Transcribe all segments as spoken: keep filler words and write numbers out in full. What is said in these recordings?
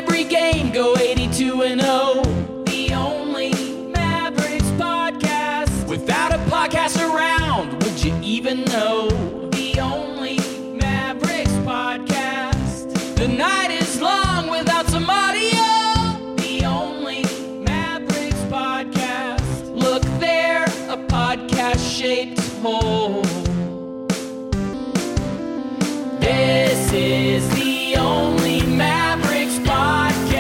every game, go eighty-two and oh. The only Mavericks podcast. Without a podcast around, would you even know? The only Mavericks podcast. The night is long without some audio. The only Mavericks podcast. Look there, a podcast-shaped hole. This is the only Mavericks podcast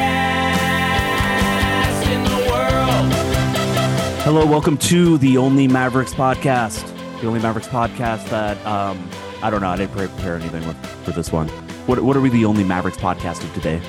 in the world. Hello, welcome to the Only Mavericks podcast. The Only Mavericks podcast that, um, I don't know, I didn't prepare anything with, for this one. What, what are we the Only Mavericks podcast of today?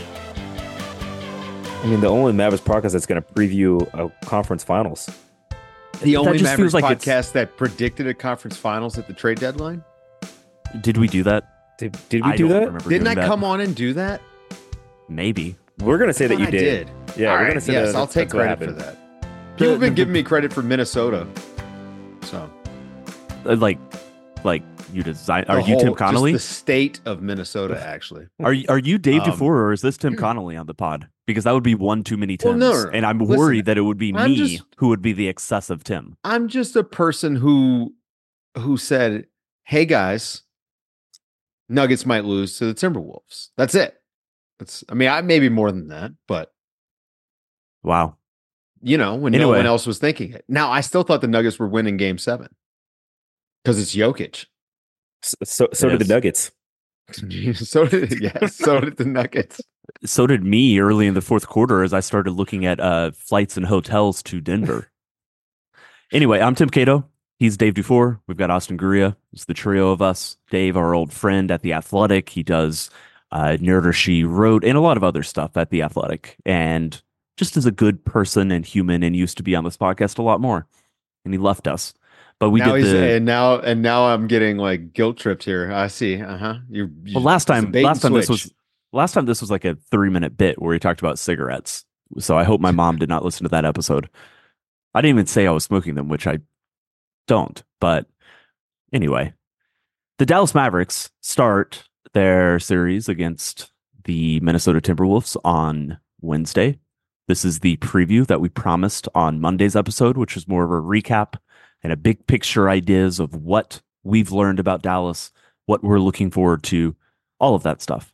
I mean, the only Mavericks podcast that's going to preview a conference finals. The That only just Mavericks feels like it's- podcast that predicted a conference finals at the trade deadline. Did we do that? Did, did we I do don't that? remember Didn't doing I that. come on and do that? Maybe. We're going to say that Thought you I did. Yeah, All we're right, going to say yes, that. I'll that's- take that's what credit for happened. that. People have been the- giving me credit for Minnesota. So Uh, Like, like you design? the Are you whole- Tim Connolly? Just the state of Minnesota, actually. Are you, are you Dave Um, Dufour or is this Tim Connolly on the pod? Because that would be one too many Well, Tims, no, no, no. and I'm Listen, worried that it would be I'm me just- who would be the excessive Tim. I'm just a person who who said, "Hey guys, Nuggets might lose to the Timberwolves." That's it. That's. I mean, I maybe more than that, but Wow. you know, when no Anyway. one else was thinking it. Now, I still thought the Nuggets were winning Game Seven because it's Jokic. S- So, so It did the is. Nuggets. so did yeah, so did the Nuggets. So did me early in the fourth quarter as I started looking at uh, flights and hotels to Denver. Anyway, I'm Tim Cato. He's Dave Dufour. We've got Austin Guria. It's the trio of us. Dave, our old friend at The Athletic. He does uh, Nerd or She Wrote and a lot of other stuff at The Athletic. And just as a good person and human and used to be on this podcast a lot more. And he left us. But we now did he's the... and now and now I'm getting like guilt tripped here. I see. Uh huh. You. Well, last it's a time, bait last and time this switch. was last time this was like a three minute bit where he talked about cigarettes. So I hope my mom did not listen to that episode. I didn't even say I was smoking them, which I don't. But anyway, the Dallas Mavericks start their series against the Minnesota Timberwolves on Wednesday. This is the preview that we promised on Monday's episode, which is more of a recap and a big picture ideas of what we've learned about Dallas, what we're looking forward to, all of that stuff.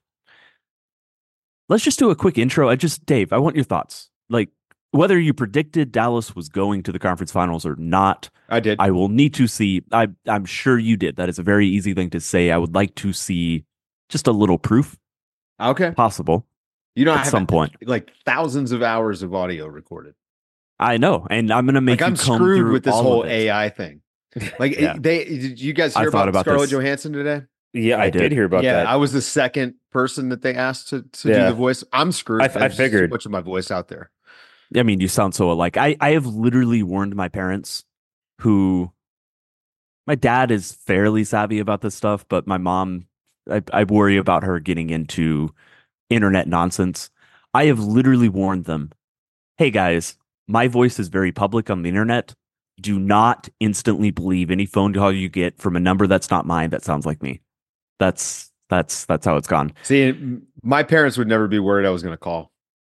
Let's just do a quick intro. I just, Dave, I want your thoughts. Like, whether you predicted Dallas was going to the conference finals or not, I did. I will need to see. I, I'm sure you did. That is a very easy thing to say. I would like to see just a little proof, okay. possible, You know, I at have some point. like thousands of hours of audio recorded. I know, and I'm going to make Like you I'm comb screwed through with this all whole of it. A I thing. Like Yeah. it- they did you guys I hear thought about, about Scarlett this. Johansson today? Yeah, I, I did. did. hear about yeah, that. I was the second person that they asked to, to Yeah. do the voice. I'm screwed. I- I There's just figured. too much of my voice out there. I mean, you sound so alike. I, I have literally warned my parents, who my dad is fairly savvy about this stuff, but my mom, I, I worry about her getting into internet nonsense. I have literally warned them, hey guys, my voice is very public on the internet. Do not instantly believe any phone call you get from a number that's not mine that sounds like me. That's that's that's how it's gone. See, m- my parents would never be worried I was going to call.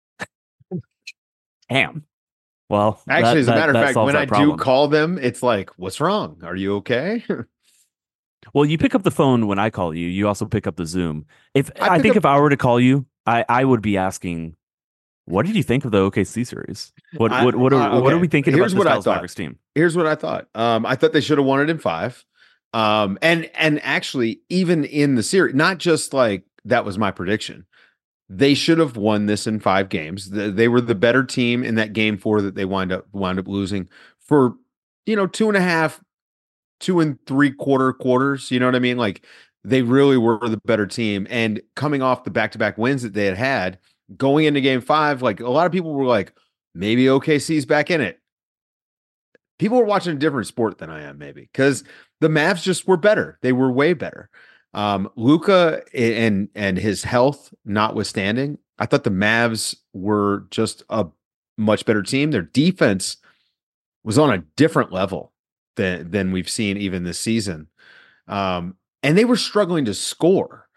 Damn. Well, Actually, that- as a that- matter of that fact, solves when that I problem. do call them, it's like, "What's wrong? Are you okay?" Well, you pick up the phone when I call you. You also pick up the Zoom. If I I, pick think up- if I were to call you, I, I would be asking, what did you think of the O K C series? What I- what what are, uh, what are okay. we thinking Here's about what this I Dallas thought. Mavericks team? Here's what I thought. Um, I thought they should have won it in five. Um, and and actually, even in the series, not just like that was my prediction. They should have won this in five games. The- They were the better team in that game four that they wind up wound up losing for, you know, two and a half, two and three quarter quarters. You know what I mean? Like they really were the better team. And coming off the back to back wins that they had had, going into game five, like a lot of people were like, maybe O K C's back in it. People were watching a different sport than I am, maybe, because the Mavs just were better. They were way better. Um, Luka and and his health notwithstanding, I thought the Mavs were just a much better team. Their defense was on a different level than than we've seen even this season, um, and they were struggling to score.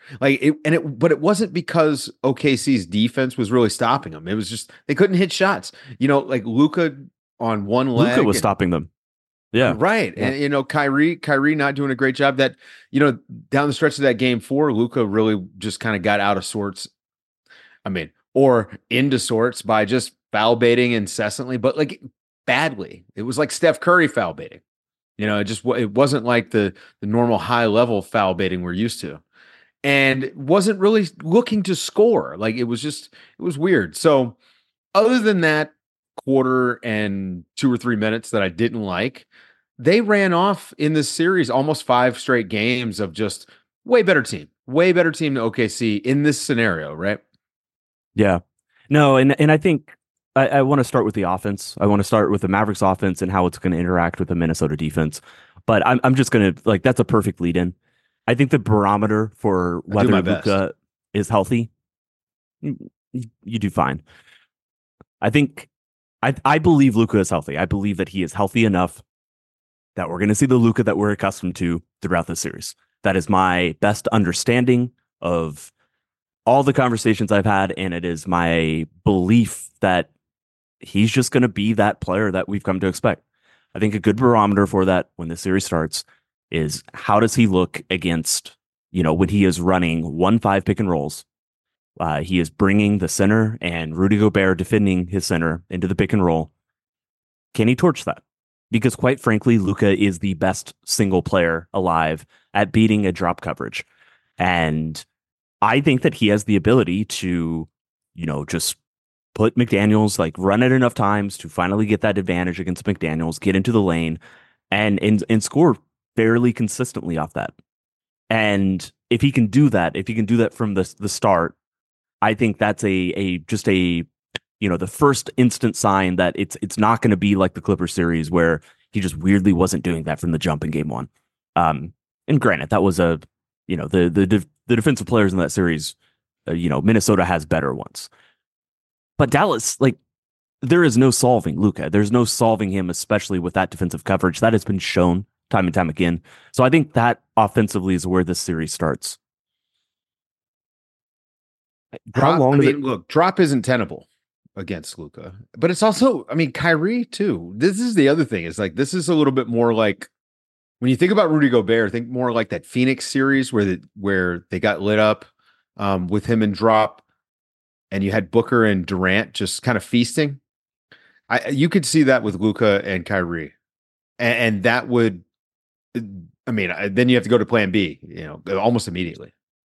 Like it, and it, but it wasn't because O K C's defense was really stopping them. It was just they couldn't hit shots. You know, like Luka on one leg. Luka was and, stopping them. Yeah, right. Yeah. And you know, Kyrie, Kyrie not doing a great job. That you know, down the stretch of that game four, Luka really just kind of got out of sorts. I mean, or into sorts by just foul baiting incessantly, but like badly. It was like Steph Curry foul baiting. You know, it just it wasn't like the the normal high level foul baiting we're used to, and wasn't really looking to score. Like it was just it was weird. So other than that quarter and two or three minutes that I didn't like, they ran off in this series almost five straight games of just way better team, way better team than O K C in this scenario, right? Yeah. No, and and I think I, I want to start with the offense. I want to start with the Mavericks offense and how it's going to interact with the Minnesota defense. But I'm I'm just going to like that's a perfect lead in. I think the barometer for whether Luka is healthy, you, you do fine. I think I I believe Luka is healthy. I believe that he is healthy enough that we're going to see the Luka that we're accustomed to throughout the series. That is my best understanding of all the conversations I've had, and it is my belief that he's just going to be that player that we've come to expect. I think a good barometer for that when the series starts is how does he look against, you know, when he is running one five pick and rolls. Uh, he is bringing the center and Rudy Gobert defending his center into the pick and roll. Can he torch that? Because quite frankly, Luka is the best single player alive at beating a drop coverage. And I think that he has the ability to, you know, just put McDaniels, like run it enough times to finally get that advantage against McDaniels, get into the lane and, and, and score fairly consistently off that. And if he can do that, if he can do that from the, the start, I think that's a, a, just a, you know, the first instant sign that it's, it's not going to be like the Clippers series where he just weirdly wasn't doing that from the jump in game one. Um, and granted, that was a, you know, the, the, the defensive players in that series, uh, you know, Minnesota has better ones. But Dallas, like, there is no solving Luka. There's no solving him, especially with that defensive coverage. That has been shown time and time again. So I think that offensively is where this series starts. Drop, How long I mean, it... look, drop isn't tenable against Luka, but it's also, I mean, Kyrie too. This is the other thing. It's like, this is a little bit more like, when you think about Rudy Gobert, think more like that Phoenix series where the, where they got lit up um, with him and drop, and you had Booker and Durant just kind of feasting. I you could see that with Luka and Kyrie, and, and that would, I mean, then you have to go to Plan B, you know, almost immediately.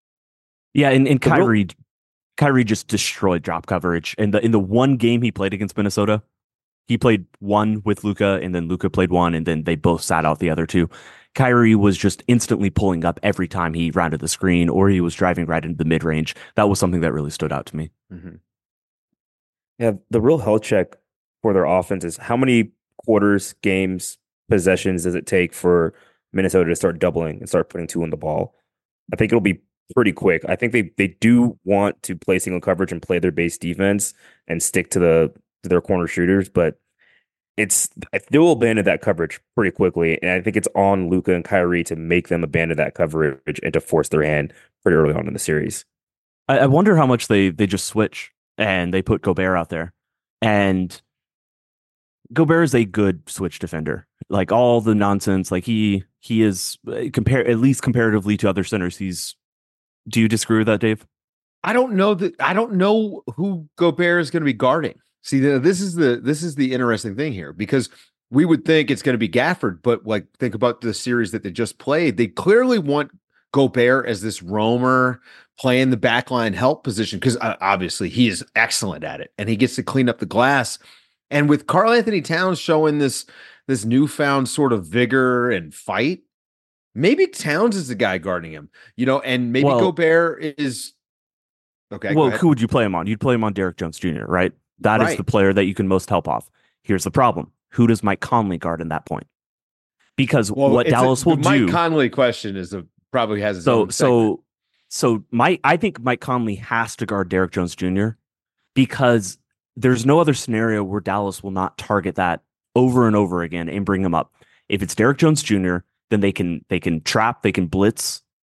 Yeah, and, and Kyrie, real- Kyrie just destroyed drop coverage, and the in the one game he played against Minnesota. He played one with Luka, and then Luka played one, and then they both sat out the other two. Kyrie was just instantly pulling up every time he rounded the screen or he was driving right into the mid-range. That was something that really stood out to me. Mm-hmm. Yeah, the real health check for their offense is how many quarters, games, possessions does it take for Minnesota to start doubling and start putting two on the ball? I think it'll be pretty quick. I think they, they do want to play single coverage and play their base defense and stick to the to their corner shooters, but it's they will abandon that coverage pretty quickly, and I think it's on Luka and Kyrie to make them abandon that coverage and to force their hand pretty early on in the series. I, I wonder how much they they just switch and they put Gobert out there, and Gobert is a good switch defender. Like all the nonsense, like he he is compare at least comparatively to other centers. He's. Do you disagree with that, Dave? I don't know that I don't know who Gobert is going to be guarding. See, this is the this is the interesting thing here, because we would think it's going to be Gafford, but like think about the series that they just played. They clearly want Gobert as this roamer playing the backline help position because uh, obviously he is excellent at it and he gets to clean up the glass. And with Karl Anthony Towns showing this this newfound sort of vigor and fight, maybe Towns is the guy guarding him, you know, and maybe well, Gobert is okay. Well, who would you play him on? You'd play him on Derrick Jones Junior, right? That right. is the player that you can most help off. Here's the problem. Who does Mike Conley guard in that point? Because well, what Dallas a, will Mike do... Mike Conley question is a, probably has his so, own So, so Mike, I think Mike Conley has to guard Derrick Jones Junior because there's no other scenario where Dallas will not target that over and over again and bring him up. If it's Derrick Jones Junior, then they can they can trap, they can blitz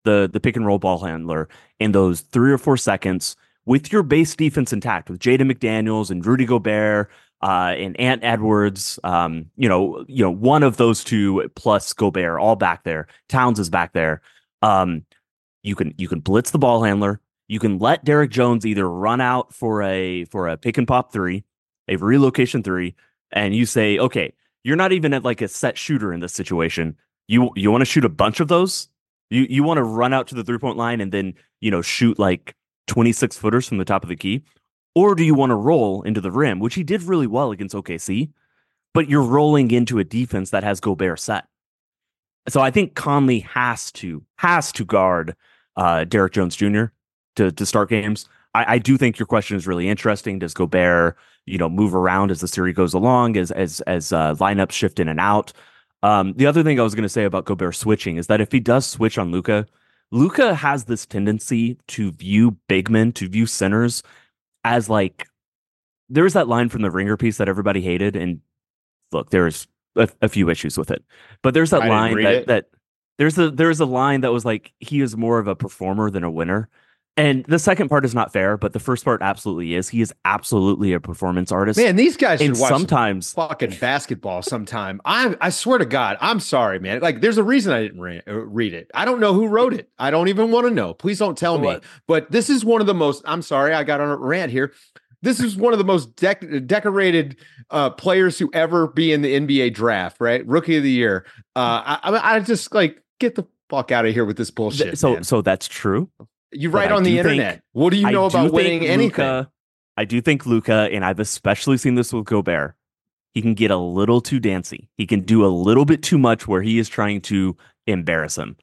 the the pick and roll ball handler in those three or four seconds with your base defense intact, with Jaden McDaniels and Rudy Gobert uh, and Ant Edwards, um, you know, you know, one of those two plus Gobert all back there. Towns is back there. Um, you can you can blitz the ball handler. You can let Derek Jones either run out for a for a pick and pop three, a relocation three, and you say, okay, you're not even at like a set shooter in this situation. You you want to shoot a bunch of those? You you want to run out to the three point line and then, you know, shoot like twenty-six footers from the top of the key? Or do you want to roll into the rim, which he did really well against O K C, but you're rolling into a defense that has Gobert set. So I think Conley has to has to guard uh, Derek Jones Junior to to start games. I, I do think your question is really interesting. Does Gobert, you know, move around as the series goes along, as as as uh, lineups shift in and out? Um, the other thing I was going to say about Gobert switching is that if he does switch on Luka, Luka has this tendency to view big men, to view centers as like, there's that line from the Ringer piece that everybody hated. And look, there's a, a few issues with it, but there's that I didn't line read that, it. that there's a, there's a line that was like, he is more of a performer than a winner. And the second part is not fair, but the first part absolutely is. He is absolutely a performance artist. Man, these guys should and watch sometimes fucking basketball sometime. I I swear to God, I'm sorry, man. Like, there's a reason I didn't re- read it. I don't know who wrote it. I don't even want to know. Please don't tell me. What? But this is one of the most. I'm sorry, I got on a rant here. This is one of the most dec- decorated uh, players who ever be in the N B A draft. Right, rookie of the year. Uh, I, I I just like get the fuck out of here with this bullshit. so man. so that's true. You but write I on the do think- internet. What do you know I do about winning think anything? Luka- I do think Luka, and I've especially seen this with Gobert, he can get a little too dancy. He can do a little bit too much where he is trying to embarrass him.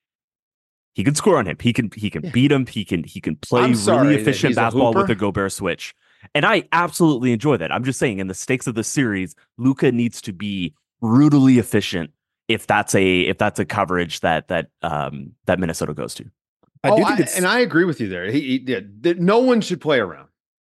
He can score on him. He can he can Yeah. beat him. He can he can play I'm sorry really that efficient he's a basketball with hooper. a Gobert switch. And I absolutely enjoy that. I'm just saying, in the stakes of the series, Luka needs to be brutally efficient if that's a if that's a coverage that that um that Minnesota goes to. I oh, do think I- it's and I agree with you there. He, he did. that no one should play around.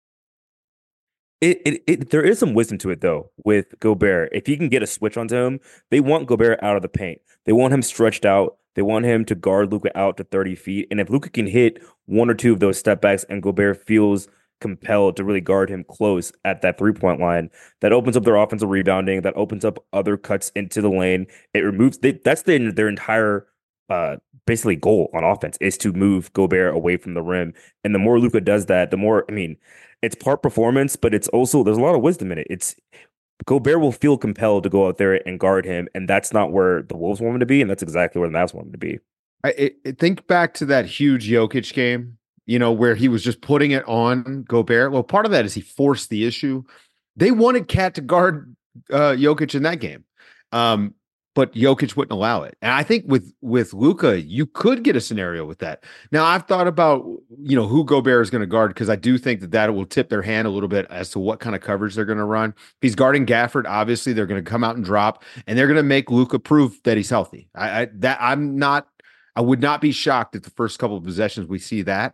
It, it, it there is some wisdom to it though with Gobert. If you can get a switch onto him, they want Gobert out of the paint. They want him stretched out. They want him to guard Luka out to thirty feet. And if Luka can hit one or two of those step backs and Gobert feels compelled to really guard him close at that three point line, that opens up their offensive rebounding. That opens up other cuts into the lane. It removes they, that's the, their entire uh, basically goal on offense is to move Gobert away from the rim. And the more Luka does that, the more, I mean, it's part performance, but it's also, there's a lot of wisdom in it. It's Gobert will feel compelled to go out there and guard him. And that's not where the Wolves want him to be. And that's exactly where the Mavs want him to be. I, I think back to that huge Jokic game, you know, where he was just putting it on Gobert. Well, part of that is he forced the issue. They wanted Cat to guard uh, Jokic in that game. Um, but Jokic wouldn't allow it. And I think with with Luka, you could get a scenario with that. Now, I've thought about, you know, who Gobert is going to guard, because I do think that that will tip their hand a little bit as to what kind of coverage they're going to run. If he's guarding Gafford, obviously they're going to come out and drop, and they're going to make Luka prove that he's healthy. I, I that I'm not. I would not be shocked if the first couple of possessions we see that.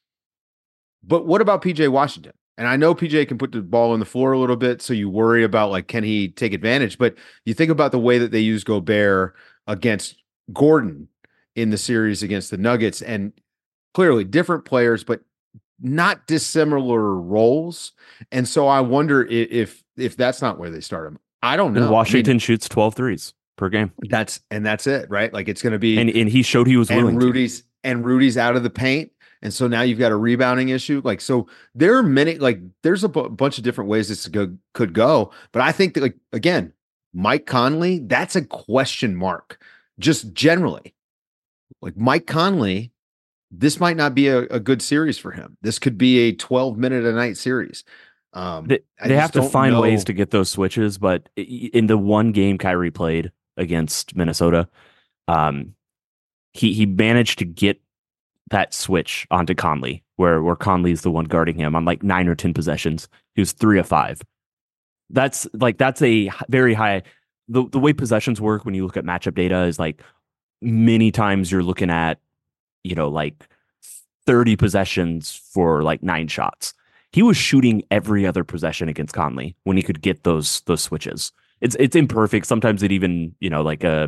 But what about P J Washington? And I know P J can put the ball on the floor a little bit, so you worry about, like, can he take advantage? But you think about the way that they use Gobert against Gordon in the series against the Nuggets, and clearly different players, but not dissimilar roles. And so I wonder if if, if that's not where they start him. I don't know. And Washington I mean, shoots twelve threes per game. that's and that's it, right? Like, it's going to be And and he showed he was willing and to. Rudy's and Rudy's out of the paint. And so now you've got a rebounding issue. Like, so there are many, like, there's a bu- bunch of different ways this go, could go. But I think that, like, again, Mike Conley, that's a question mark, just generally. Like, Mike Conley, this might not be a, a good series for him. This could be a twelve minute a night series. Um, They, I they just have to don't find know. ways to get those switches, but i- in the one game Kyrie played against Minnesota, um, he he managed to get that switch onto Conley, where where Conley's the one guarding him on like nine or ten possessions. He was three of five. That's like that's a h- very high. The the way possessions work when you look at matchup data is like many times you're looking at, you know, like thirty possessions for like nine shots. He was shooting every other possession against Conley when he could get those those switches. It's it's imperfect. Sometimes it even, you know, like a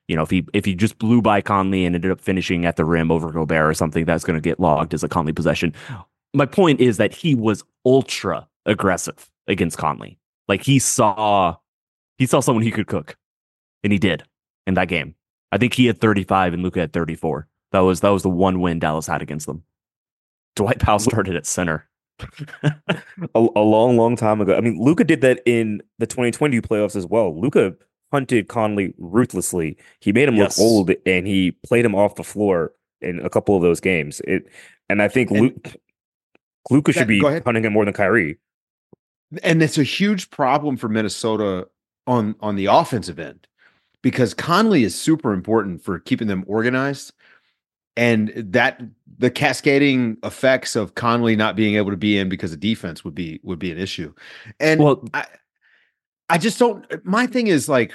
You know, if he if he just blew by Conley and ended up finishing at the rim over Gobert or something, that's going to get logged as a Conley possession. My point is that he was ultra aggressive against Conley. Like he saw he saw someone he could cook, and he did in that game. I think he had thirty-five and Luka had thirty-four. That was that was the one win Dallas had against them. Dwight Powell started at center. a, a long, long time ago. I mean, Luka did that in the twenty twenty playoffs as well. Luka hunted Conley ruthlessly. He made him Yes. look old, and he played him off the floor in a couple of those games. It, and I think And- Luke, Luka should Yeah, be go ahead. hunting him more than Kyrie. And it's a huge problem for Minnesota on on the offensive end because Conley is super important for keeping them organized, and that the cascading effects of Conley not being able to be in because of defense would be would be an issue. And Well, I I just don't. My thing is like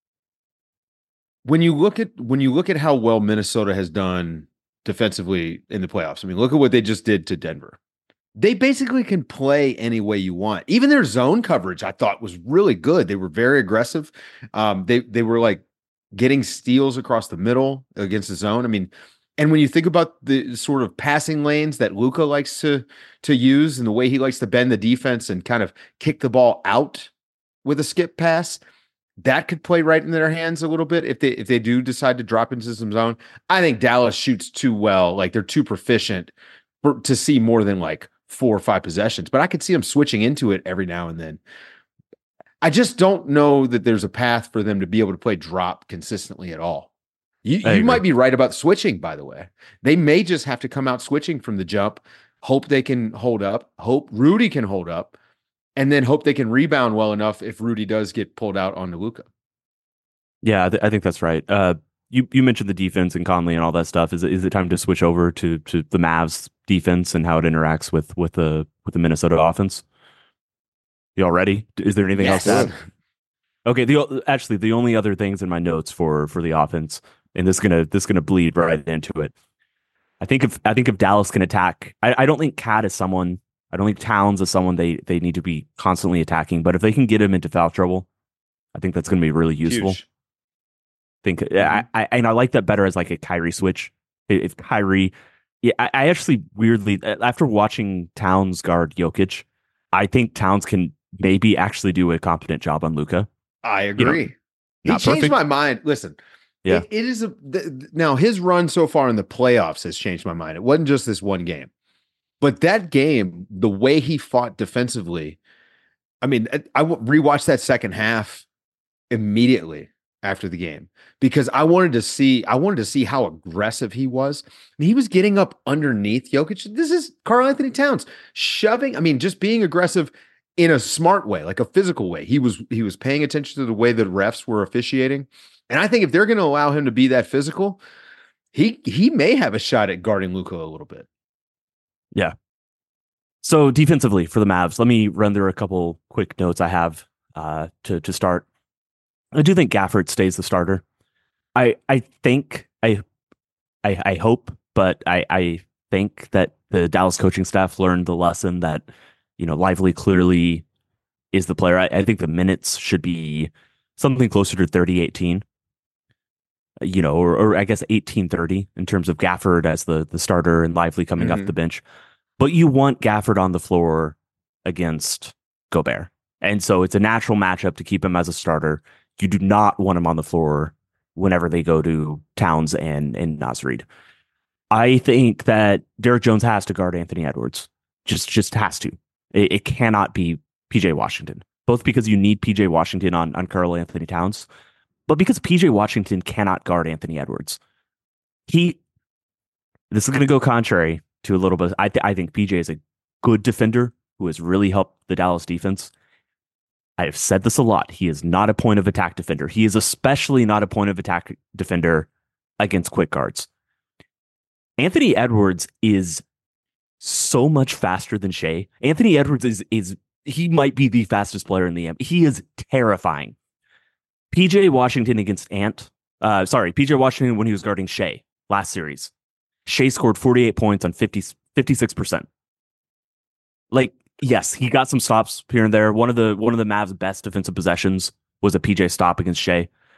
when you look at when you look at how well Minnesota has done defensively in the playoffs. I mean, look at what they just did to Denver. They basically can play any way you want. Even their zone coverage, I thought, was really good. They were very aggressive. Um, they they were like getting steals across the middle against the zone. I mean, and when you think about the sort of passing lanes that Luka likes to to use and the way he likes to bend the defense and kind of kick the ball out with a skip pass, that could play right in their hands a little bit if they if they do decide to drop into some zone. I think Dallas shoots too well, like they're too proficient for, to see more than like four or five possessions, but I could see them switching into it every now and then. I just don't know that there's a path for them to be able to play drop consistently at all. You, I you agree. might be right about switching, by the way. They may just have to come out switching from the jump, hope they can hold up, hope Rudy can hold up, and then hope they can rebound well enough if Rudy does get pulled out onto Luka. yeah, I, th- I think that's right. Uh, you you mentioned the defense and Conley and all that stuff. Is it is it time to switch over to to the Mavs defense and how it interacts with with the with the Minnesota offense? Y'all ready? Is there anything else to Yes. add? Okay, the o- actually the only other things in my notes for for the offense, and this is gonna this is gonna bleed right into it. I think if I think if Dallas can attack, I, I don't think Cat is someone. I don't think Towns is someone they they need to be constantly attacking. But if they can get him into foul trouble, I think that's going to be really useful. Huge. Think I, I and I like that better as like a Kyrie switch. If Kyrie, yeah, I, I actually weirdly after watching Towns guard Jokic, I think Towns can maybe actually do a competent job on Luka. I You know, agree. he not changed perfect. my mind. Listen, Yeah. it, it is a th- th- now his run so far in the playoffs has changed my mind. It wasn't just this one game, but that game, the way he fought defensively. I mean, I, I w- rewatched that second half immediately after the game because I wanted to see I wanted to see how aggressive he was. And he was getting up underneath Jokic. This is Karl Anthony Towns shoving. I mean, just being aggressive in a smart way, like a physical way. He was he was paying attention to the way the refs were officiating. And I think if they're going to allow him to be that physical, he he may have a shot at guarding Luka a little bit. So defensively for the Mavs, let me run through a couple quick notes I have uh, to to start. I do think Gafford stays the starter. I I think I I, I hope, but I I think that the Dallas coaching staff learned the lesson that you know Lively clearly is the player. I, I think the minutes should be something closer to thirty eighteen. You know, or, or I guess eighteen thirty in terms of Gafford as the the starter and Lively coming off Mhm. the bench. But you want Gafford on the floor against Gobert. And so it's a natural matchup to keep him as a starter. You do not want him on the floor whenever they go to Towns and, and Naz Reid. I think that Derek Jones has to guard Anthony Edwards. Just just has to. It, it cannot be P J Washington. Both because you need P J Washington on, on Karl Anthony Towns, but because P J Washington cannot guard Anthony Edwards. He this is going to go contrary to a little bit. I, th- I think P J is a good defender who has really helped the Dallas defense. I have said this a lot. He is not a point of attack defender. He is especially not a point of attack defender against quick guards. Anthony Edwards is so much faster than Shea. Anthony Edwards is is he might be the fastest player in the N B A. He is terrifying. P J Washington against Ant. Uh, sorry, P J Washington when he was guarding Shea last series. Shea scored forty-eight points on fifty, fifty-six percent. Like, yes, he got some stops here and there. One of the one of the Mavs' best defensive possessions was a P J stop against Shea.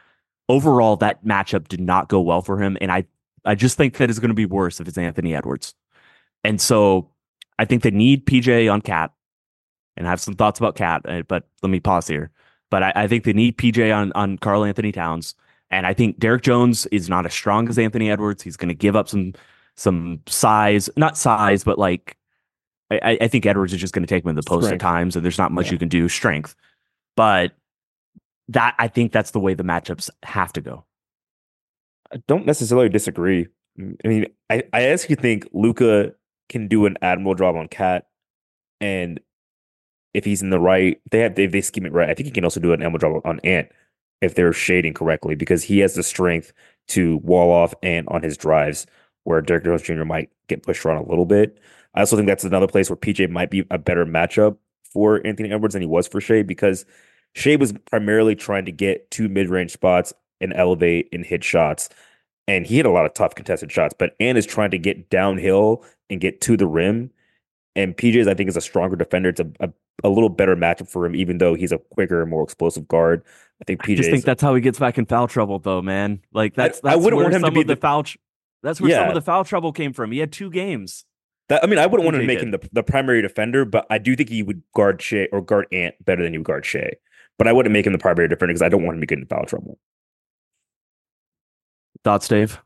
overall, that matchup did not go well for him. And I, I just think that it's going to be worse if it's Anthony Edwards. And so I think they need P J on Cat, and I have some thoughts about Cat, but let me pause here. But I, I think they need P J on, on Karl Anthony Towns. And I think Derek Jones is not as strong as Anthony Edwards. He's going to give up some some size, not size, but like I, I think Edwards is just going to take him in the post Strength. at times, and there's not much Yeah. you can do. Strength, but that I think that's the way the matchups have to go. I don't necessarily disagree. I mean, I, I actually think Luka can do an admirable job on Cat, and if he's in the right, they have they, they scheme it right. I think he can also do an admirable job on Ant if they're shading correctly, because he has the strength to wall off Ant on his drives, where Derrick Jones Junior might get pushed around a little bit. I also think that's another place where P J might be a better matchup for Anthony Edwards than he was for Shea, because Shea was primarily trying to get two mid-range spots and elevate and hit shots. And he hit a lot of tough contested shots, but Ant is trying to get downhill and get to the rim. And P J's, I think, is a stronger defender. It's a, a, a little better matchup for him, even though he's a quicker, more explosive guard. I think I P J. just think that's how he gets back in foul trouble, though, man. Like that's I that's wouldn't where want him to some be of the the- foul. Tr- that's where some Yeah. of the foul trouble came from. He had two games. That, I mean, I wouldn't want P J to make did. him the, the primary defender, but I do think he would guard Shea or guard Ant better than he would guard Shea. But I wouldn't make him the primary defender because I don't want him to get in foul trouble. Thoughts, Dave?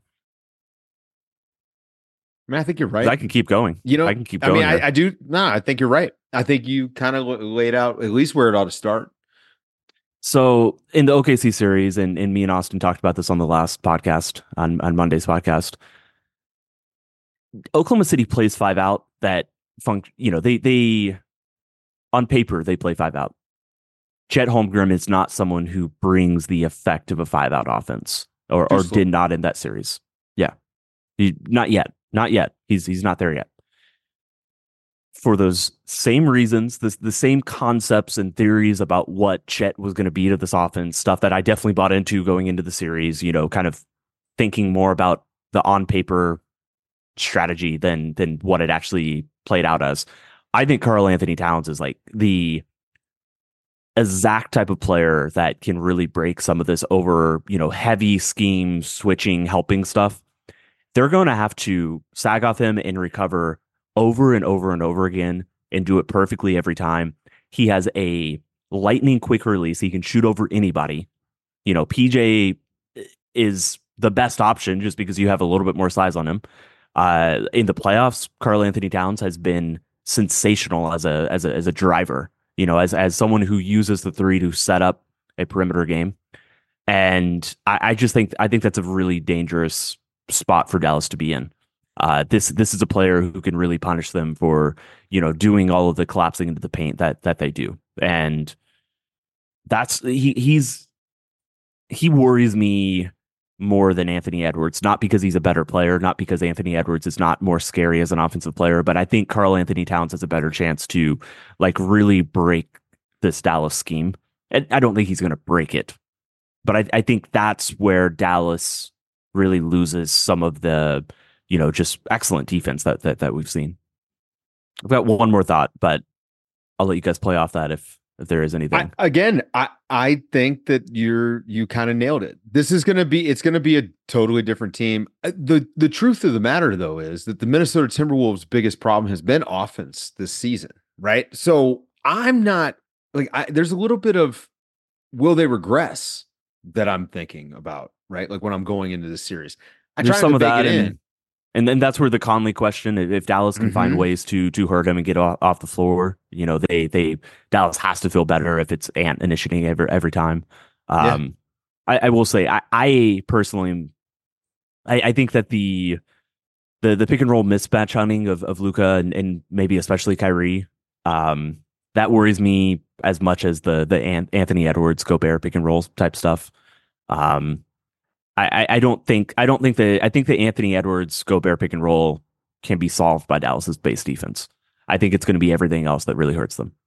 I mean, I think you're 'Cause right. I can keep going. You know, I can keep I going. mean, here. I, I do. No, I think you're right. I think you kind of laid out at least where it ought to start. So in the O K C series, and, and me and Austin talked about this on the last podcast, on, on Monday's podcast, Oklahoma City plays five out that func you know, they they on paper they play five out. Chet Holmgren is not someone who brings the effect of a five out offense, or, or Too slow. did not in that series. Yeah. He, not yet. Not yet. He's he's not there yet. For those same reasons, the, the same concepts and theories about what Chet was going to be to this offense, stuff that I definitely bought into going into the series, you know, kind of thinking more about the on paper strategy than than what it actually played out as. I think Karl Anthony Towns is like the exact type of player that can really break some of this over, you know, heavy scheme switching, helping stuff. They're going to have to sag off him and recover over and over and over again and do it perfectly every time. He has a lightning quick release. He can shoot over anybody. You know, P J is the best option just because you have a little bit more size on him. Uh, in the playoffs, Karl Anthony Towns has been sensational as a as a as a driver. You know, as as someone who uses the three to set up a perimeter game. And I, I just think I think that's a really dangerous spot for Dallas to be in. Uh, this this is a player who can really punish them for, you know, doing all of the collapsing into the paint that that they do. And that's he he's he worries me more than Anthony Edwards, not because he's a better player, not because Anthony Edwards is not more scary as an offensive player, but I think Karl Anthony Towns has a better chance to like really break this Dallas scheme. And I don't think he's going to break it, but I, I think that's where Dallas really loses some of the, you know, just excellent defense that that, that we've seen. I've got one more thought, but I'll let you guys play off that if if there is anything. I, again, I I think that you're you kind of nailed it. This is going to be it's going to be a totally different team. Uh, The the truth of the matter though is that the Minnesota Timberwolves' biggest problem has been offense this season, right? So I'm not like I, there's a little bit of will they regress that I'm thinking about, right? Like when I'm going into this series, I There's try some to of bake that, it in. and and then that's where the Conley question: if if Dallas can find Mhm. ways to to hurt him and get off, off the floor, you know, they they Dallas has to feel better if it's Ant initiating every every time. Yeah. Um, I, I will say, I, I personally, am- I, I think that the the the pick and roll mismatch hunting of of Luka and, and maybe especially Kyrie, um, that worries me as much as the the An- Anthony Edwards Gobert pick and roll type stuff. Um, I, I don't think I don't think that I think the Anthony Edwards Gobert pick and roll can be solved by Dallas's base defense. I think it's going to be everything else that really hurts them.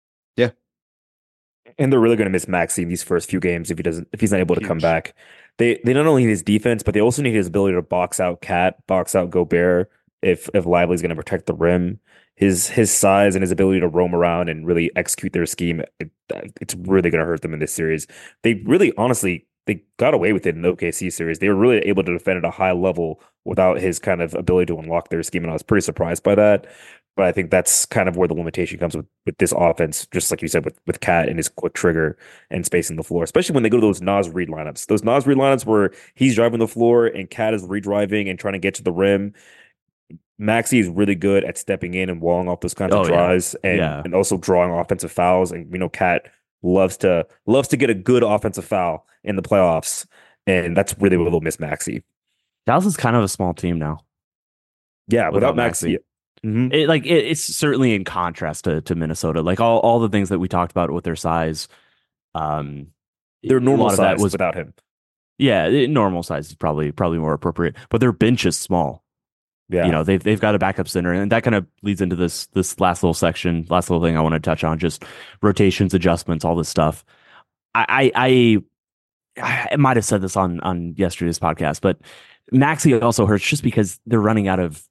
And they're really going to miss Maxey in these first few games if he doesn't if he's not able to come Huge. back. They they not only need his defense, but they also need his ability to box out Cat, box out Gobert if if Lively's going to protect the rim. His his size and his ability to roam around and really execute their scheme, it, it's really going to hurt them in this series. They really honestly they got away with it in the O K C series. They were really able to defend at a high level without his kind of ability to unlock their scheme, and I was pretty surprised by that. But I think that's kind of where the limitation comes with, with this offense, just like you said, with, with Cat and his quick trigger and spacing the floor, especially when they go to those Nas Reed lineups. Those Nas Reed lineups where he's driving the floor and Cat is redriving and trying to get to the rim. Maxey is really good at stepping in and walling off those kinds Oh, of yeah. drives and, Yeah. and also drawing offensive fouls. And we know Cat loves to loves to get a good offensive foul in the playoffs. And that's really where they'll miss Maxey. Dallas is kind of a small team now. Yeah, without, Without Maxey. Maxey. Mhm. It, like it, it's certainly in contrast to, to Minnesota. Like all, all the things that we talked about with their size, um, Their a normal lot of size that was without him. yeah, it- normal size is probably probably more appropriate. But their bench is small. Yeah. You know, they've they've got a backup center, and that kind of leads into this this last little section, last little thing I want to touch on, just rotations, adjustments, all this stuff. I I I, I might have said this on on yesterday's podcast, but Maxey also hurts just because they're running out of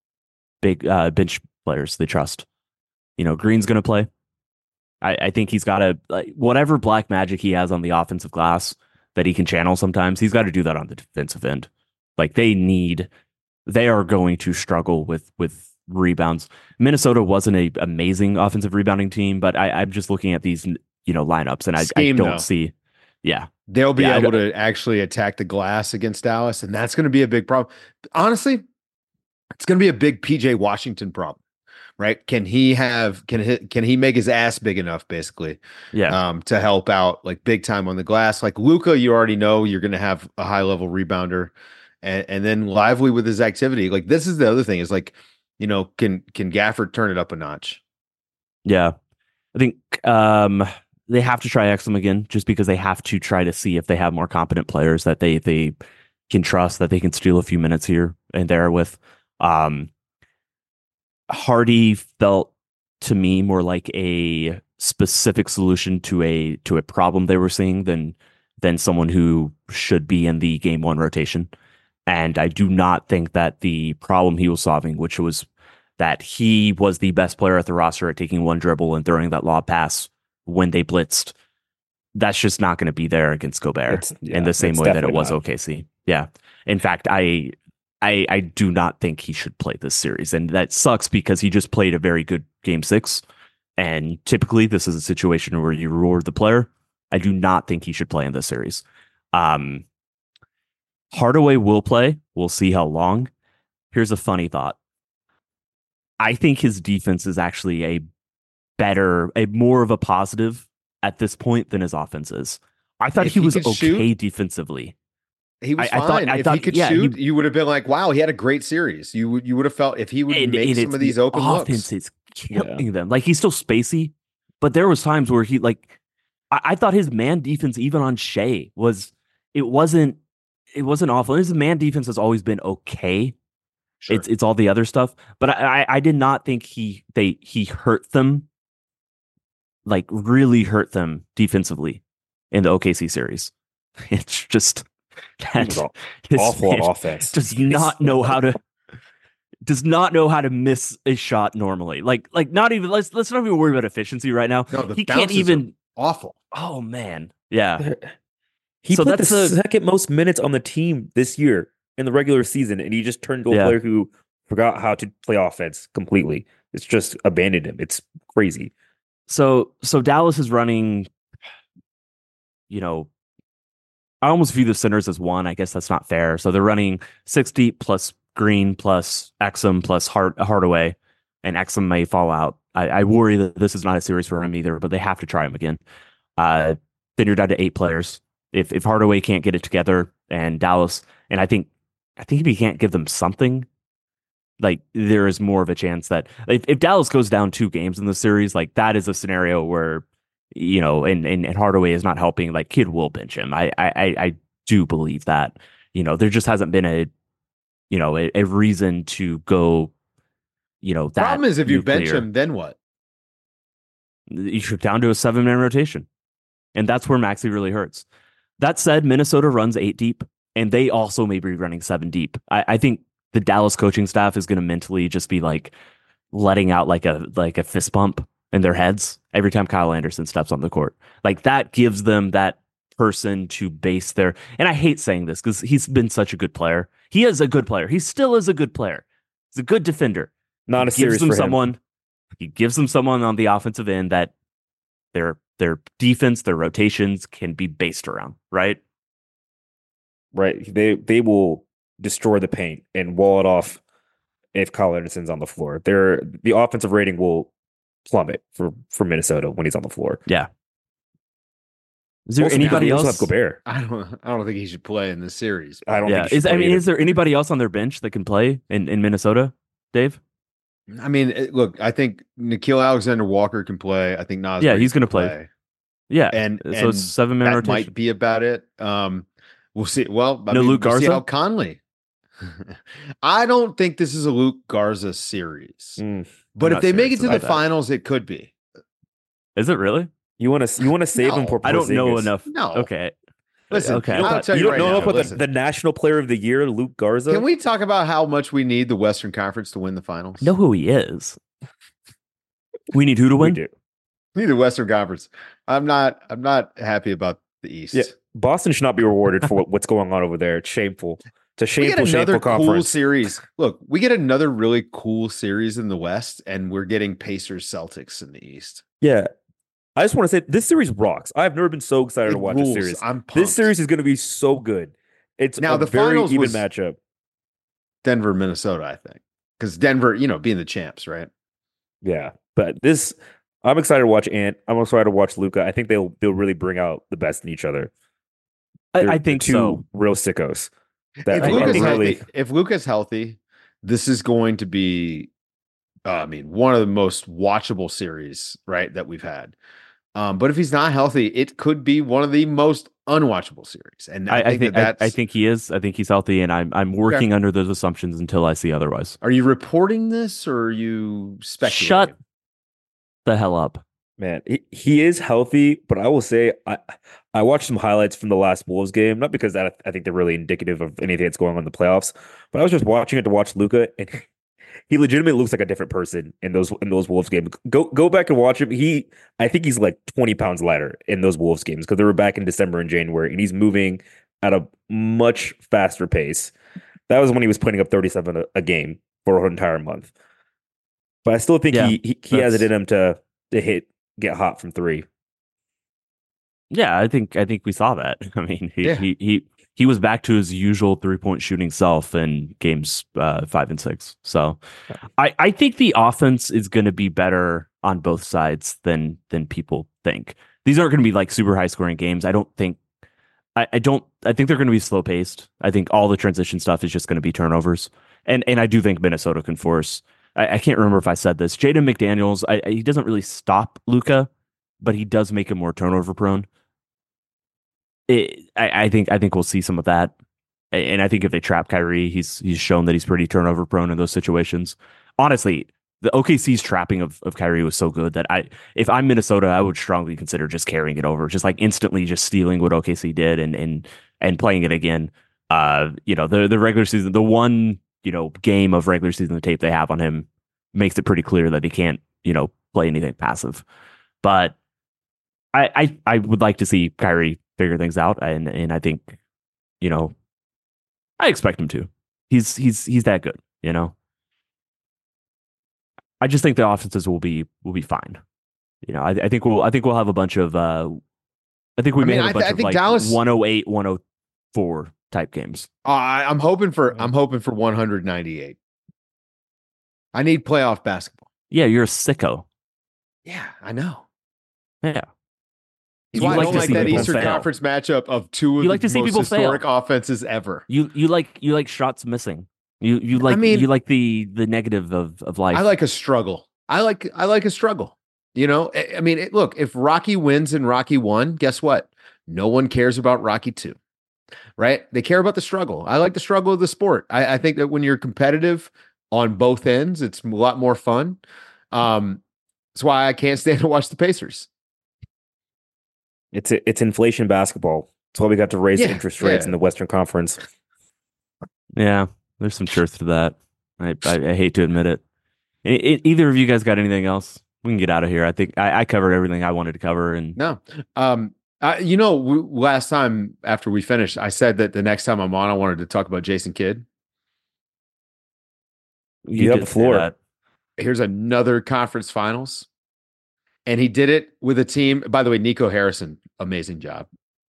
big uh, bench players they trust. You know, Green's going to play. I, I think he's got to like, whatever black magic he has on the offensive glass that he can channel sometimes. He's got to do that on the defensive end. Like they need. They are going to struggle with with rebounds. Minnesota wasn't a amazing offensive rebounding team, but I, I'm just looking at these, you know, lineups, and I, I Scheme, don't though. see. Yeah, They'll be Yeah, I able to actually attack the glass against Dallas, and that's going to be a big problem. Honestly, it's going to be a big P J Washington problem, right? Can he have can he can he make his ass big enough, basically, yeah, um, to help out like big time on the glass? Like Luka, you already know you're going to have a high level rebounder, and and then Lively with his activity. Like this is the other thing is like, you know, can can Gafford turn it up a notch? yeah. I think um, they have to try Exum again, just because they have to try to see if they have more competent players that they they can trust, that they can steal a few minutes here and there with. Um, Hardy felt to me more like a specific solution to a to a problem they were seeing than than someone who should be in the game one rotation. And I do not think that the problem he was solving, which was that he was the best player at the roster at taking one dribble and throwing that lob pass when they blitzed, that's just not going to be there against Gobert It's- yeah, in the same it's way that it definitely was not. O K C. Yeah. In fact, I I I do not think he should play this series. And that sucks because he just played a very good game six. And typically this is a situation where you reward the player. I do not think he should play in this series. Um, Hardaway will play. We'll see how long. Here's a funny thought. I think his defense is actually a better, a more of a positive at this point than his offense is. I thought If he he was could okay shoot, defensively. He was I- I fine. thought- I if thought- he could yeah, shoot, he- you would have been like, "Wow, he had a great series." You would you would have felt if he would And- make and some it's of these the open offense looks. is killing them. Like he's still spacey, but there was times where he like I, I thought his man defense even on Shea was it wasn't it wasn't awful. His man defense has always been okay. Sure. It's it's all the other stuff, but I, I I did not think he they he hurt them, like really hurt them defensively in the O K C series. It's just He was that aw- his awful man on offense. does not know how to does not know how to miss a shot normally. Like like not even let's let's not even worry about efficiency right now. No, the He can't bounces are even. awful. Oh man, yeah. He So played the that's a- second most minutes on the team this year in the regular season, and he just turned to a Yeah. player who forgot how to play offense completely. It's just abandoned him. It's crazy. So so Dallas is running. You know, I almost view the centers as one. I guess that's not fair. So they're running six deep plus Green plus Exum plus Hard, Hardaway, and Exum may fall out. I, I worry that this is not a series for him either, but they have to try him again. Uh, then you're down to eight players. If if Hardaway can't get it together and Dallas, and I think I think if he can't give them something, like there is more of a chance that if, if Dallas goes down two games in the series, like that is a scenario where, you know, and, and, and Hardaway is not helping, like Kid will bench him. I, I, I- I do believe that, you know, there just hasn't been a, you know, a, a reason to go, you know, that Problem is if you bench nuclear. him, then what? You should down to a seven man rotation. And that's where Maxey really hurts. That said, Minnesota runs eight deep, and they also may be running seven deep. I, I think the Dallas coaching staff is going to mentally just be like letting out like a like a fist bump in their heads every time Kyle Anderson steps on the court. Like that gives them that person to base their, and I hate saying this because he's been such a good player. He is a good player. He still is a good player. He's a good defender. Not a He gives series them for him. someone. He gives them someone on the offensive end that their their defense, their rotations can be based around, right? Right. They they will destroy the paint and wall it off if Kyle Anderson's on the floor. Their the offensive rating will plummet for, for Minnesota when he's on the floor. Yeah. Is there Also, anybody they also else? have Gobert. I don't. I don't think he should play in this series. I don't Yeah. think he Is should I play mean, either. is there anybody else on their bench that can play in, in Minnesota, Dave? I mean, it- look. I think Nikhil Alexander Walker can play. I think Nas. Yeah, Reed he's can gonna play. Yeah. and so and it's seven man that rotation. might be about it. Um, we'll see. Well, I No mean, Luke we'll see Garza? how Conley. I don't think this is a Luke Garza series, Mm. but I'm if they not make it serious to the about that. finals, it could be. Is it really? You want to you want to save him No, for I don't know Porzingis. enough. No. Okay. Listen, Okay. I'll I thought- tell You you, don't right know now, about the, listen. the national player of the year, Luke Garza? Can we talk about how much we need the Western Conference to win the finals? Know who he is. We need who to We win? do. we need the Western Conference. I'm not. I'm not happy about the East. Yeah. Boston should not be rewarded for what, what's going on over there. It's shameful. It's a We get shameful, another shameful cool conference. series. Look, we get another really cool series in the West, and we're getting Pacers Celtics in the East. Yeah. I just want to say this series rocks. I've never been so excited It to watch rules. a series. I'm pumped. This series is going to be so good. It's Now, a the very finals even was- matchup. Denver, Minnesota, I think, because Denver, you know, being the champs, right? Yeah, but this, I'm excited to watch Ant. I'm excited to watch Luca. I think they'll they'll really bring out the best in each other. I, They're- I they're think two so. real sickos. That If are Luca's really, healthy, if Luca's healthy, this is going to be, uh, I mean, one of the most watchable series, right, that we've had. Um, but if he's not healthy, it could be one of the most unwatchable series. And I, I, I think, think that I, that's. I think he is. I think he's healthy, and I'm I'm working under those assumptions until I see otherwise. Are you reporting this or are you speculating? Shut the hell up. man, he, he is healthy. But I will say, I I watched some highlights from the last Wolves game, not because that I think they're really indicative of anything that's going on in the playoffs, but I was just watching it to watch Luca, and he legitimately looks like a different person in those in those Wolves games. Go go back and watch him. He, I think he's like twenty pounds lighter in those Wolves games because they were back in December and January, and he's moving at a much faster pace. That was when he was putting up thirty-seven a, a game for an entire month. But I still think Yeah, he he, he has it that's- in him to to hit get hot from three. Yeah, I think I think we saw that. I mean, he Yeah. he he he was back to his usual three point shooting self in games uh, five and six. So, I I think the offense is going to be better on both sides than than people think. These aren't going to be like super high scoring games. I don't think. I, I don't. I think they're going to be slow paced. I think all the transition stuff is just going to be turnovers, and and I do think Minnesota can force. I, I can't remember if I said this. Jaden McDaniels. I, I, he doesn't really stop Luka, but he does make him more turnover prone. It, I, I think I think we'll see some of that, A- and I think if they trap Kyrie, he's he's shown that he's pretty turnover prone in those situations. Honestly, the O K C's trapping of, of Kyrie was so good that I, if I'm Minnesota, I would strongly consider just carrying it over, just like instantly just stealing what O K C did and and and playing it again. Uh, you know, the the regular season, the one you know game of regular season tape they have on him makes it pretty clear that he can't you know play anything passive. But I I, I would like to see Kyrie figure things out, and and I think you know I expect him to. He's he's he's that good, you know. I just think the offenses will be will be fine. You know, I, I think we'll I think we'll have a bunch of uh I think we I may mean, have a I bunch th- I of think like Dallas- one oh eight, one oh four type games. Uh, I, I'm hoping for I'm hoping for one ninety-eight. I need playoff basketball. Yeah, you're a sicko. Yeah, I know. Yeah. That's You why I like don't to like see that people Eastern fail. Conference matchup of two of You the like to see most people fail. historic offenses ever. You you like you like shots missing. You you like mean- you like the the negative of of life. I like a struggle. I like I like a struggle. You know, I, I mean, it, look, if Rocky wins in Rocky one, guess what? No one cares about Rocky two, right? They care about the struggle. I like the struggle of the sport. I, I think that when you're competitive on both ends, it's a lot more fun. Um, that's why I can't stand to watch the Pacers. It's it's inflation basketball. That's why we got to raise Yeah, interest rates yeah. in the Western Conference. Yeah, there's some truth to that. I I, I hate to admit it. E- e- either of you guys got anything else? We can get out of here. I think I, I covered everything I wanted to cover, and No. Um, Uh, you know, w- last time after we finished, I said that the next time I'm on, I wanted to talk about Jason Kidd. You have did the say floor. that. Here's another conference finals. And he did it with a team. By the way, Nico Harrison, amazing job.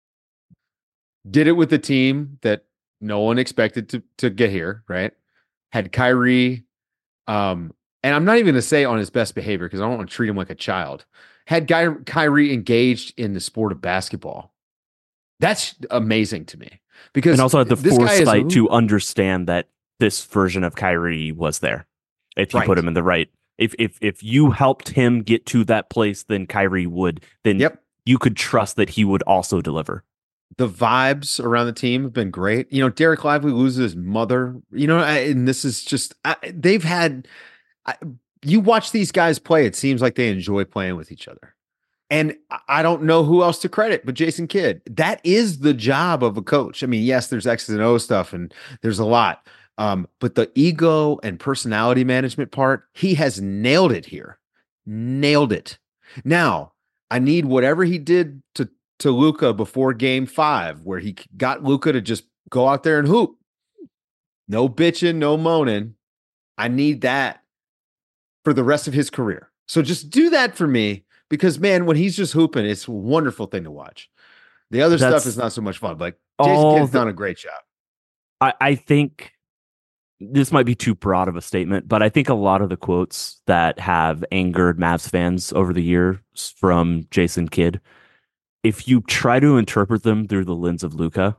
Did it with a team that no one expected to, to get here, right? Had Kyrie, um, and I'm not even going to say on his best behavior because I don't want to treat him like a child. Had Guy, Kyrie engaged in the sport of basketball. That's amazing to me because And also had the this guy is foresight who- to understand that this version of Kyrie was there. If you Right. put him in the right, if if if you helped him get to that place, then Kyrie would. Then Yep. you could trust that he would also deliver. The vibes around the team have been great. You know, Derek Lively loses his mother. You know, I- and this is just I, they've had. I, you watch these guys play; it seems like they enjoy playing with each other. And I- I don't know who else to credit but Jason Kidd. That is the job of a coach. I mean, yes, there's X's and O stuff, and there's a lot. Um, but the ego and personality management part, he has nailed it here. Nailed it. Now, I need whatever he did to to Luka before game five, where he got Luka to just go out there and hoop. No bitching, no moaning. I need that for the rest of his career. So just do that for me because, man, when he's just hooping, it's a wonderful thing to watch. The other That's stuff is not so much fun, but Jason all Kidd's the- done a great job. I, I think this might be too broad of a statement, but I think a lot of the quotes that have angered Mavs fans over the years from Jason Kidd, if you try to interpret them through the lens of Luka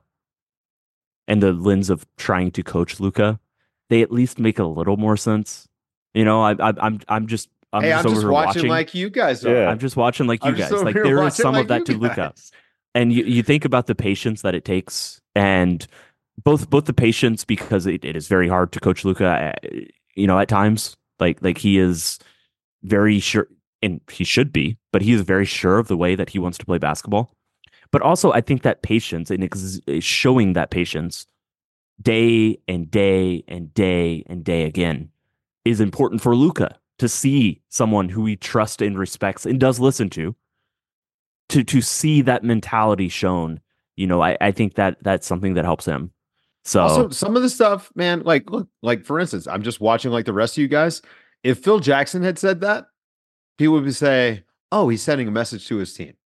and the lens of trying to coach Luka, they at least make a little more sense. You know, I, I, I'm I'm just I'm hey, just I'm over just here watching, watching like you guys are. Yeah. I'm just watching like you I'm just guys. over Like here there is watching some like of that you to Luka. guys. And you, you think about the patience that it takes, and both both the patience because it, it is very hard to coach Luka. You know, at times, like like he is very sure, and he should be, but he is very sure of the way that he wants to play basketball. But also, I think that patience and ex- showing that patience day and day and day and day again is important for Luka to see someone who he trusts and respects and does listen to. To to see that mentality shown, you know, I, I think that that's something that helps him. So Also, some of the stuff, man, like, look, like, for instance, I'm just watching like the rest of you guys. If Phil Jackson had said that, he would say, oh, he's sending a message to his team.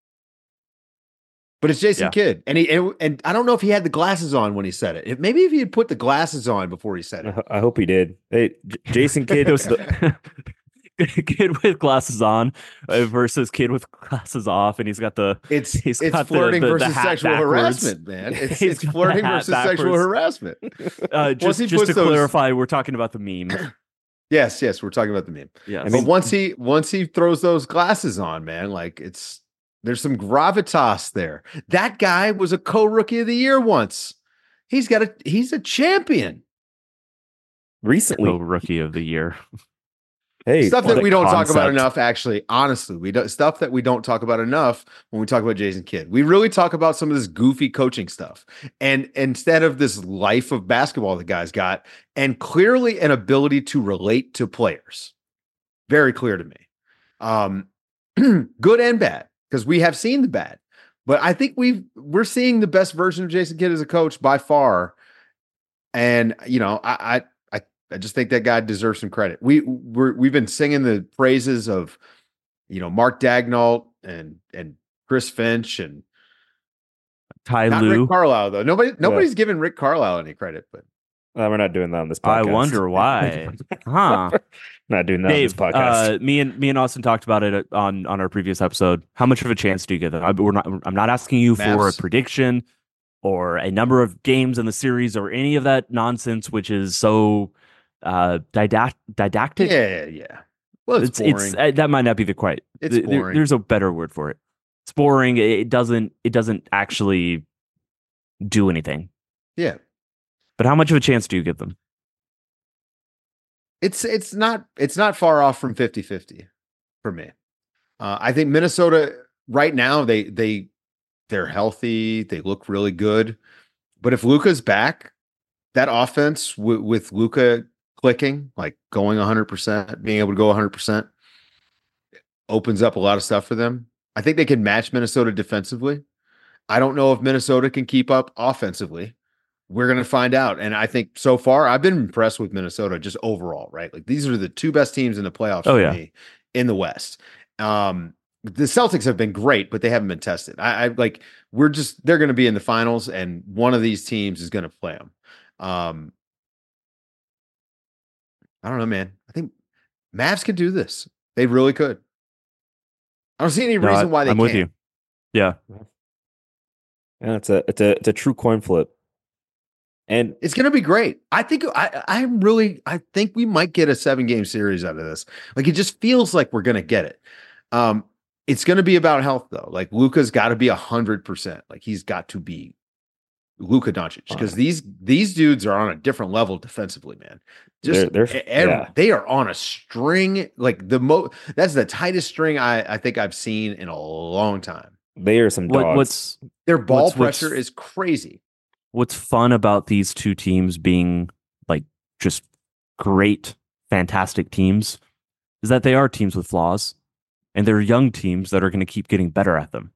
But it's Jason Yeah. Kidd. And he and, and I don't know if he had the glasses on when he said it. If, maybe if he had put the glasses on before he said I it. ho- I hope he did. Hey, J- Jason Kidd. it was the kid with glasses on uh, versus kid with glasses off, and he's got the It's He's it's got the- flirting the- the versus hat sexual backwards. harassment, man. It's He's it's got the flirting hat versus sexual backwards. harassment. uh, Once just he just puts to those- clarify, we're talking about the meme. Yes, yes, we're talking about the meme. Yes. I But mean- once he once he throws those glasses on, man, like it's there's some gravitas there. That guy was a co-rookie of the year once. He's got a he's a champion. Recently, Oh, rookie of the year. hey, Stuff what that a we don't talk about concept. enough, actually. Honestly, we don't stuff that we don't talk about enough when we talk about Jason Kidd. We really talk about some of this goofy coaching stuff. And instead of this life of basketball the guy's got, and clearly an ability to relate to players. Very clear to me. Um, good and bad, because we have seen the bad. But I think we've we're seeing the best version of Jason Kidd as a coach by far. And you know, I I I, I just think that guy deserves some credit. We we're, we've been singing the praises of, you know, Mark Dagnall and and Chris Finch and Ty not Lue. Rick Carlisle though. Nobody nobody's giving Rick Carlisle any credit, but uh, we're not doing that on this I podcast. wonder why. Huh. Not doing that Dave, on this podcast. uh, me and me and Austin talked about it on on our previous episode. How much of a chance do you give them? I, we're not. I'm not asking you for a Mavs. prediction or a number of games in the series or any of that nonsense, which is so uh, didact- didactic. yeah, yeah. Well, it's, it's, boring. it's uh, that might not be the quite. It's th- there- boring. there's a better word for it. It's boring. It doesn't. It doesn't actually do anything. yeah. But how much of a chance do you give them? It's it's not it's not far off from fifty-fifty for me. Uh, I think Minnesota right now they they they're healthy, they look really good. But if Luka's back, that offense w- with Luka clicking, like going one hundred percent, being able to go one hundred percent, opens up a lot of stuff for them. I think they can match Minnesota defensively. I don't know if Minnesota can keep up offensively. We're going to find out. And I think so far, I've been impressed with Minnesota just overall, right? Like these are the two best teams in the playoffs Oh, for yeah. me in the West. Um, the Celtics have been great, but they haven't been tested. I, I like, we're just, they're going to be in the finals and one of these teams is going to play them. Um, I don't know, man. I think Mavs could do this. They really could. I don't see any No, reason I- why they I'm can't. with you. Yeah. Yeah, it's a it's a it's a true coin flip. And It's going to be great. I think I I'm really I think we might get a seven game series out of this. Like it just feels like we're going to get it. Um, it's going to be about health though. Like Luka's got to be a hundred percent. Like he's got to be Luka Doncic because these these dudes are on a different level defensively, man. Just They're- they're- every- yeah. they are on a string like the mo. That's the tightest string I I think I've seen in a long time. they are some What, dogs. what's Their ball What's- what's- pressure is crazy. what's fun about these two teams being like just great, fantastic teams is that they are teams with flaws and they're young teams that are going to keep getting better at them.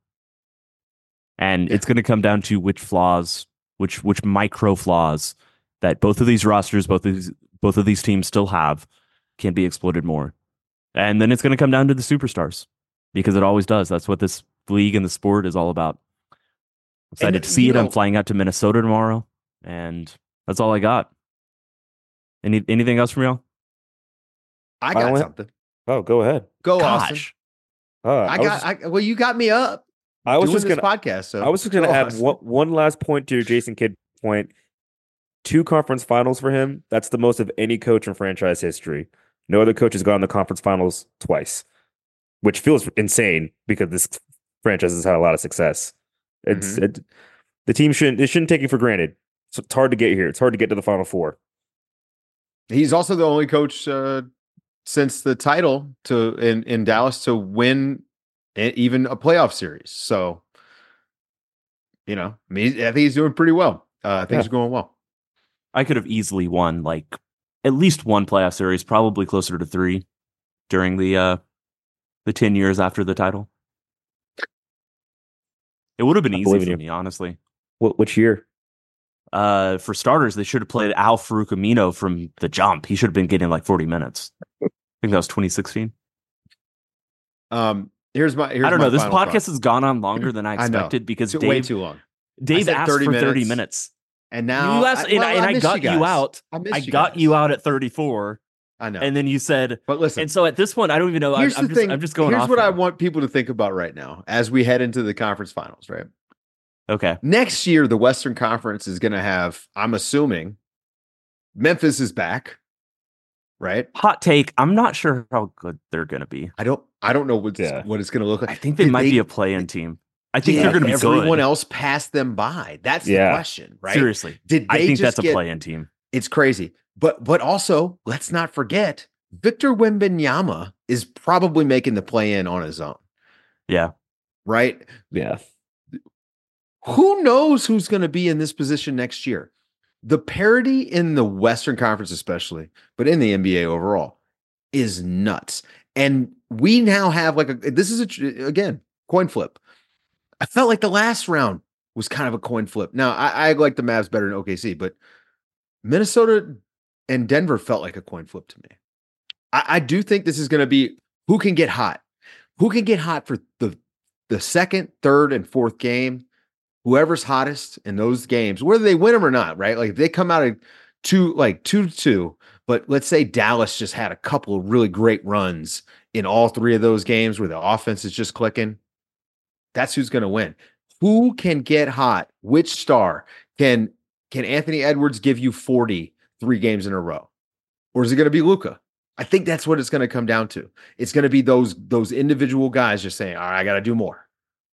And Yeah. it's going to come down to which flaws, which which micro flaws that both of these rosters, both of these both of these teams still have can be exploited more. And then it's going to come down to the superstars because it always does. That's what this league and the sport is all about. Excited And, to see you it. I'm know- flying out to Minnesota tomorrow, and that's all I got. Any anything else from y'all? I got Finally- something. Oh, go ahead. Go Austin. Gosh, Uh, I was got. just- I, well, you got me up. I was doing just this gonna podcast. So I was just gonna go add Austin. one, one last point to your Jason Kidd point. Two conference finals for him. That's the most of any coach in franchise history. No other coach has gone to the conference finals twice, which feels insane because this franchise has had a lot of success. It's Mm-hmm. it, the team shouldn't it shouldn't take it for granted. It's, it's hard to get here. It's hard to get to the final four. He's also the only coach uh, since the title to in in Dallas to win a, even a playoff series. So, you know, I mean, I think he's doing pretty well. Uh, things Yeah. are going well. I could have easily won like at least one playoff series, probably closer to three during the uh, the ten years after the title. It would have been I easy believe in for you. me, honestly. What which year? Uh, for starters, they should have played Al Farouk Amino from the jump. He should have been getting like forty minutes. I think that was twenty sixteen. Um, here's my. Here's I don't my know. This final podcast thought. has gone on longer than I I know. expected because Too- Dave, way too long. Dave said asked thirty for thirty minutes. minutes. And now, you asked, I, and, well, I, and I I missed got you, you, guys. out. I missed I you got guys. you out at thirty-four, I know. and then you said, but listen, and so at this point, I don't even know. I'm, here's I'm the just, thing. I'm just going. Here's off what I now. want people to think about right now as we head into the conference finals. Right. Okay. Next year, the Western Conference is going to have, I'm assuming, Memphis is back, right? Hot take. I'm not sure how good they're going to be. I don't, I don't know what it's, Yeah. what it's going to look like. I think they Did might be a play-in team. I think did they're going to be everyone good. else pass them by. That's Yeah. the question, right? Seriously, Did they I think just that's a get, play-in team. It's crazy, but but also let's not forget Victor Wembanyama is probably making the play in on his own, Yeah. right? Yeah. Who knows who's going to be in this position next year? The parity in the Western Conference, especially, but in the N B A overall, is nuts. And we now have like a this is a tr- again coin flip. I felt like the last round was kind of a coin flip. Now I, I like the Mavs better than O K C, but Minnesota and Denver felt like a coin flip to me. I, I do think this is going to be who can get hot, who can get hot for the the second, third, and fourth game. Whoever's hottest in those games, whether they win them or not, right? Like if they come out of two, like two to two, but let's say Dallas just had a couple of really great runs in all three of those games where the offense is just clicking. That's who's going to win. Who can get hot? Which star can can Anthony Edwards give you forty three games in a row, or is it going to be Luka? I think that's what it's going to come down to. It's going to be those those individual guys just saying, "All right, I got to do more."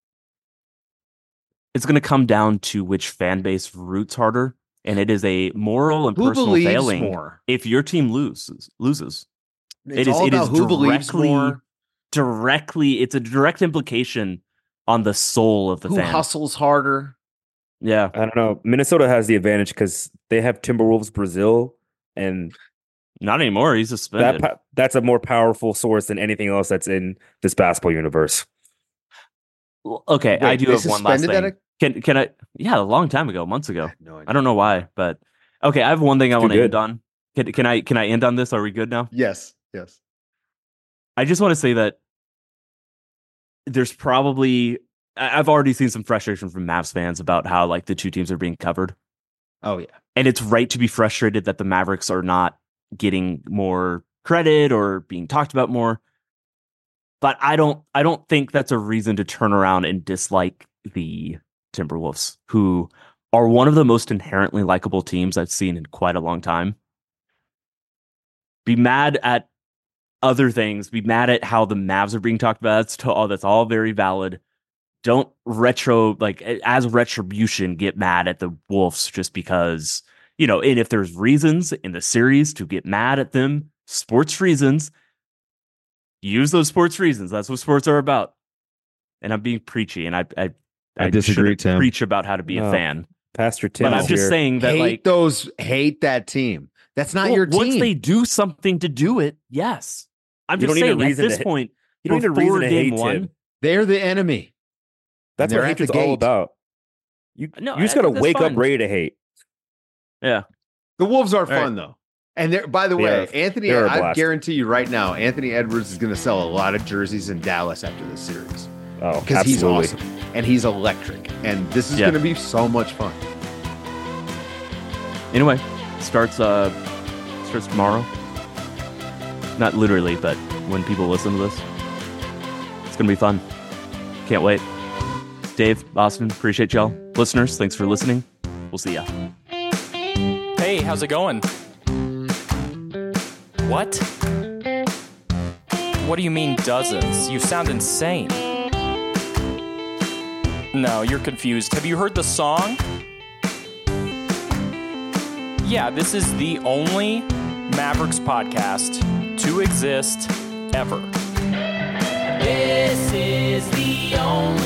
It's going to come down to which fan base roots harder, and it is a moral and Who personal believes failing more? if your team loses. Loses. It's It is- all it about is who believes directly- more, Directly, it's a direct implication on the soul of the who fan. hustles harder. Yeah, I don't know. Minnesota has the advantage because they have Timberwolves Brazil, and not anymore. He's that suspended. po- that's a more powerful source than anything else that's in this basketball universe. Well, okay, Wait, I do they have one last suspended thing. that Can can I? Yeah, a long time ago, months ago. No idea. I don't know why, but okay. I have one thing I Too want to good. end on. Can, can I can I end on this? Are we good now? Yes, yes. I just want to say that there's probably I- I've already seen some frustration from Mavs fans about how like the two teams are being covered, Oh yeah. and it's right to be frustrated that the Mavericks are not getting more credit or being talked about more. But I don't I don't think that's a reason to turn around and dislike the Timberwolves, who are one of the most inherently likable teams I've seen in quite a long time. Be mad at other things. Be mad at how the Mavs are being talked about. That's all. That's all very valid. Don't retro like as retribution. Get mad at the Wolves just because you know. And if there's reasons in the series to get mad at them, sports reasons, use those sports reasons. That's what sports are about. And I'm being preachy, and I I, I disagree, shouldn't Tim. preach about how to be No. a fan. Pastor Tim But I'm is just here. saying that hate like those hate that team. That's not well, your team. once they do something to do it, yes. I'm You just don't need a saying at reason this to- point, You don't need a before reason to game hate one, Tim. They're the enemy. That's they're what at the hatred's all gate. about. You, No, you just I got to think that's wake fine. up ready to hate. yeah. The Wolves are right. fun though. And they're, by the They way, are- Anthony, they are a I blast. guarantee you right now, Anthony Edwards is going to sell a lot of jerseys in Dallas after this series Oh, because he's absolutely. awesome and he's electric. And this is Yeah. going to be so much fun. Anyway, starts uh starts tomorrow. Not literally, but when people listen to this, it's gonna be fun. Can't wait. Dave, Austin, appreciate y'all. Listeners, thanks for listening. We'll see ya. Hey, how's it going? What? What do you mean dozens? You sound insane. No, you're confused. Have you heard the song? Yeah, this is the only Mavericks podcast to exist ever. This is the only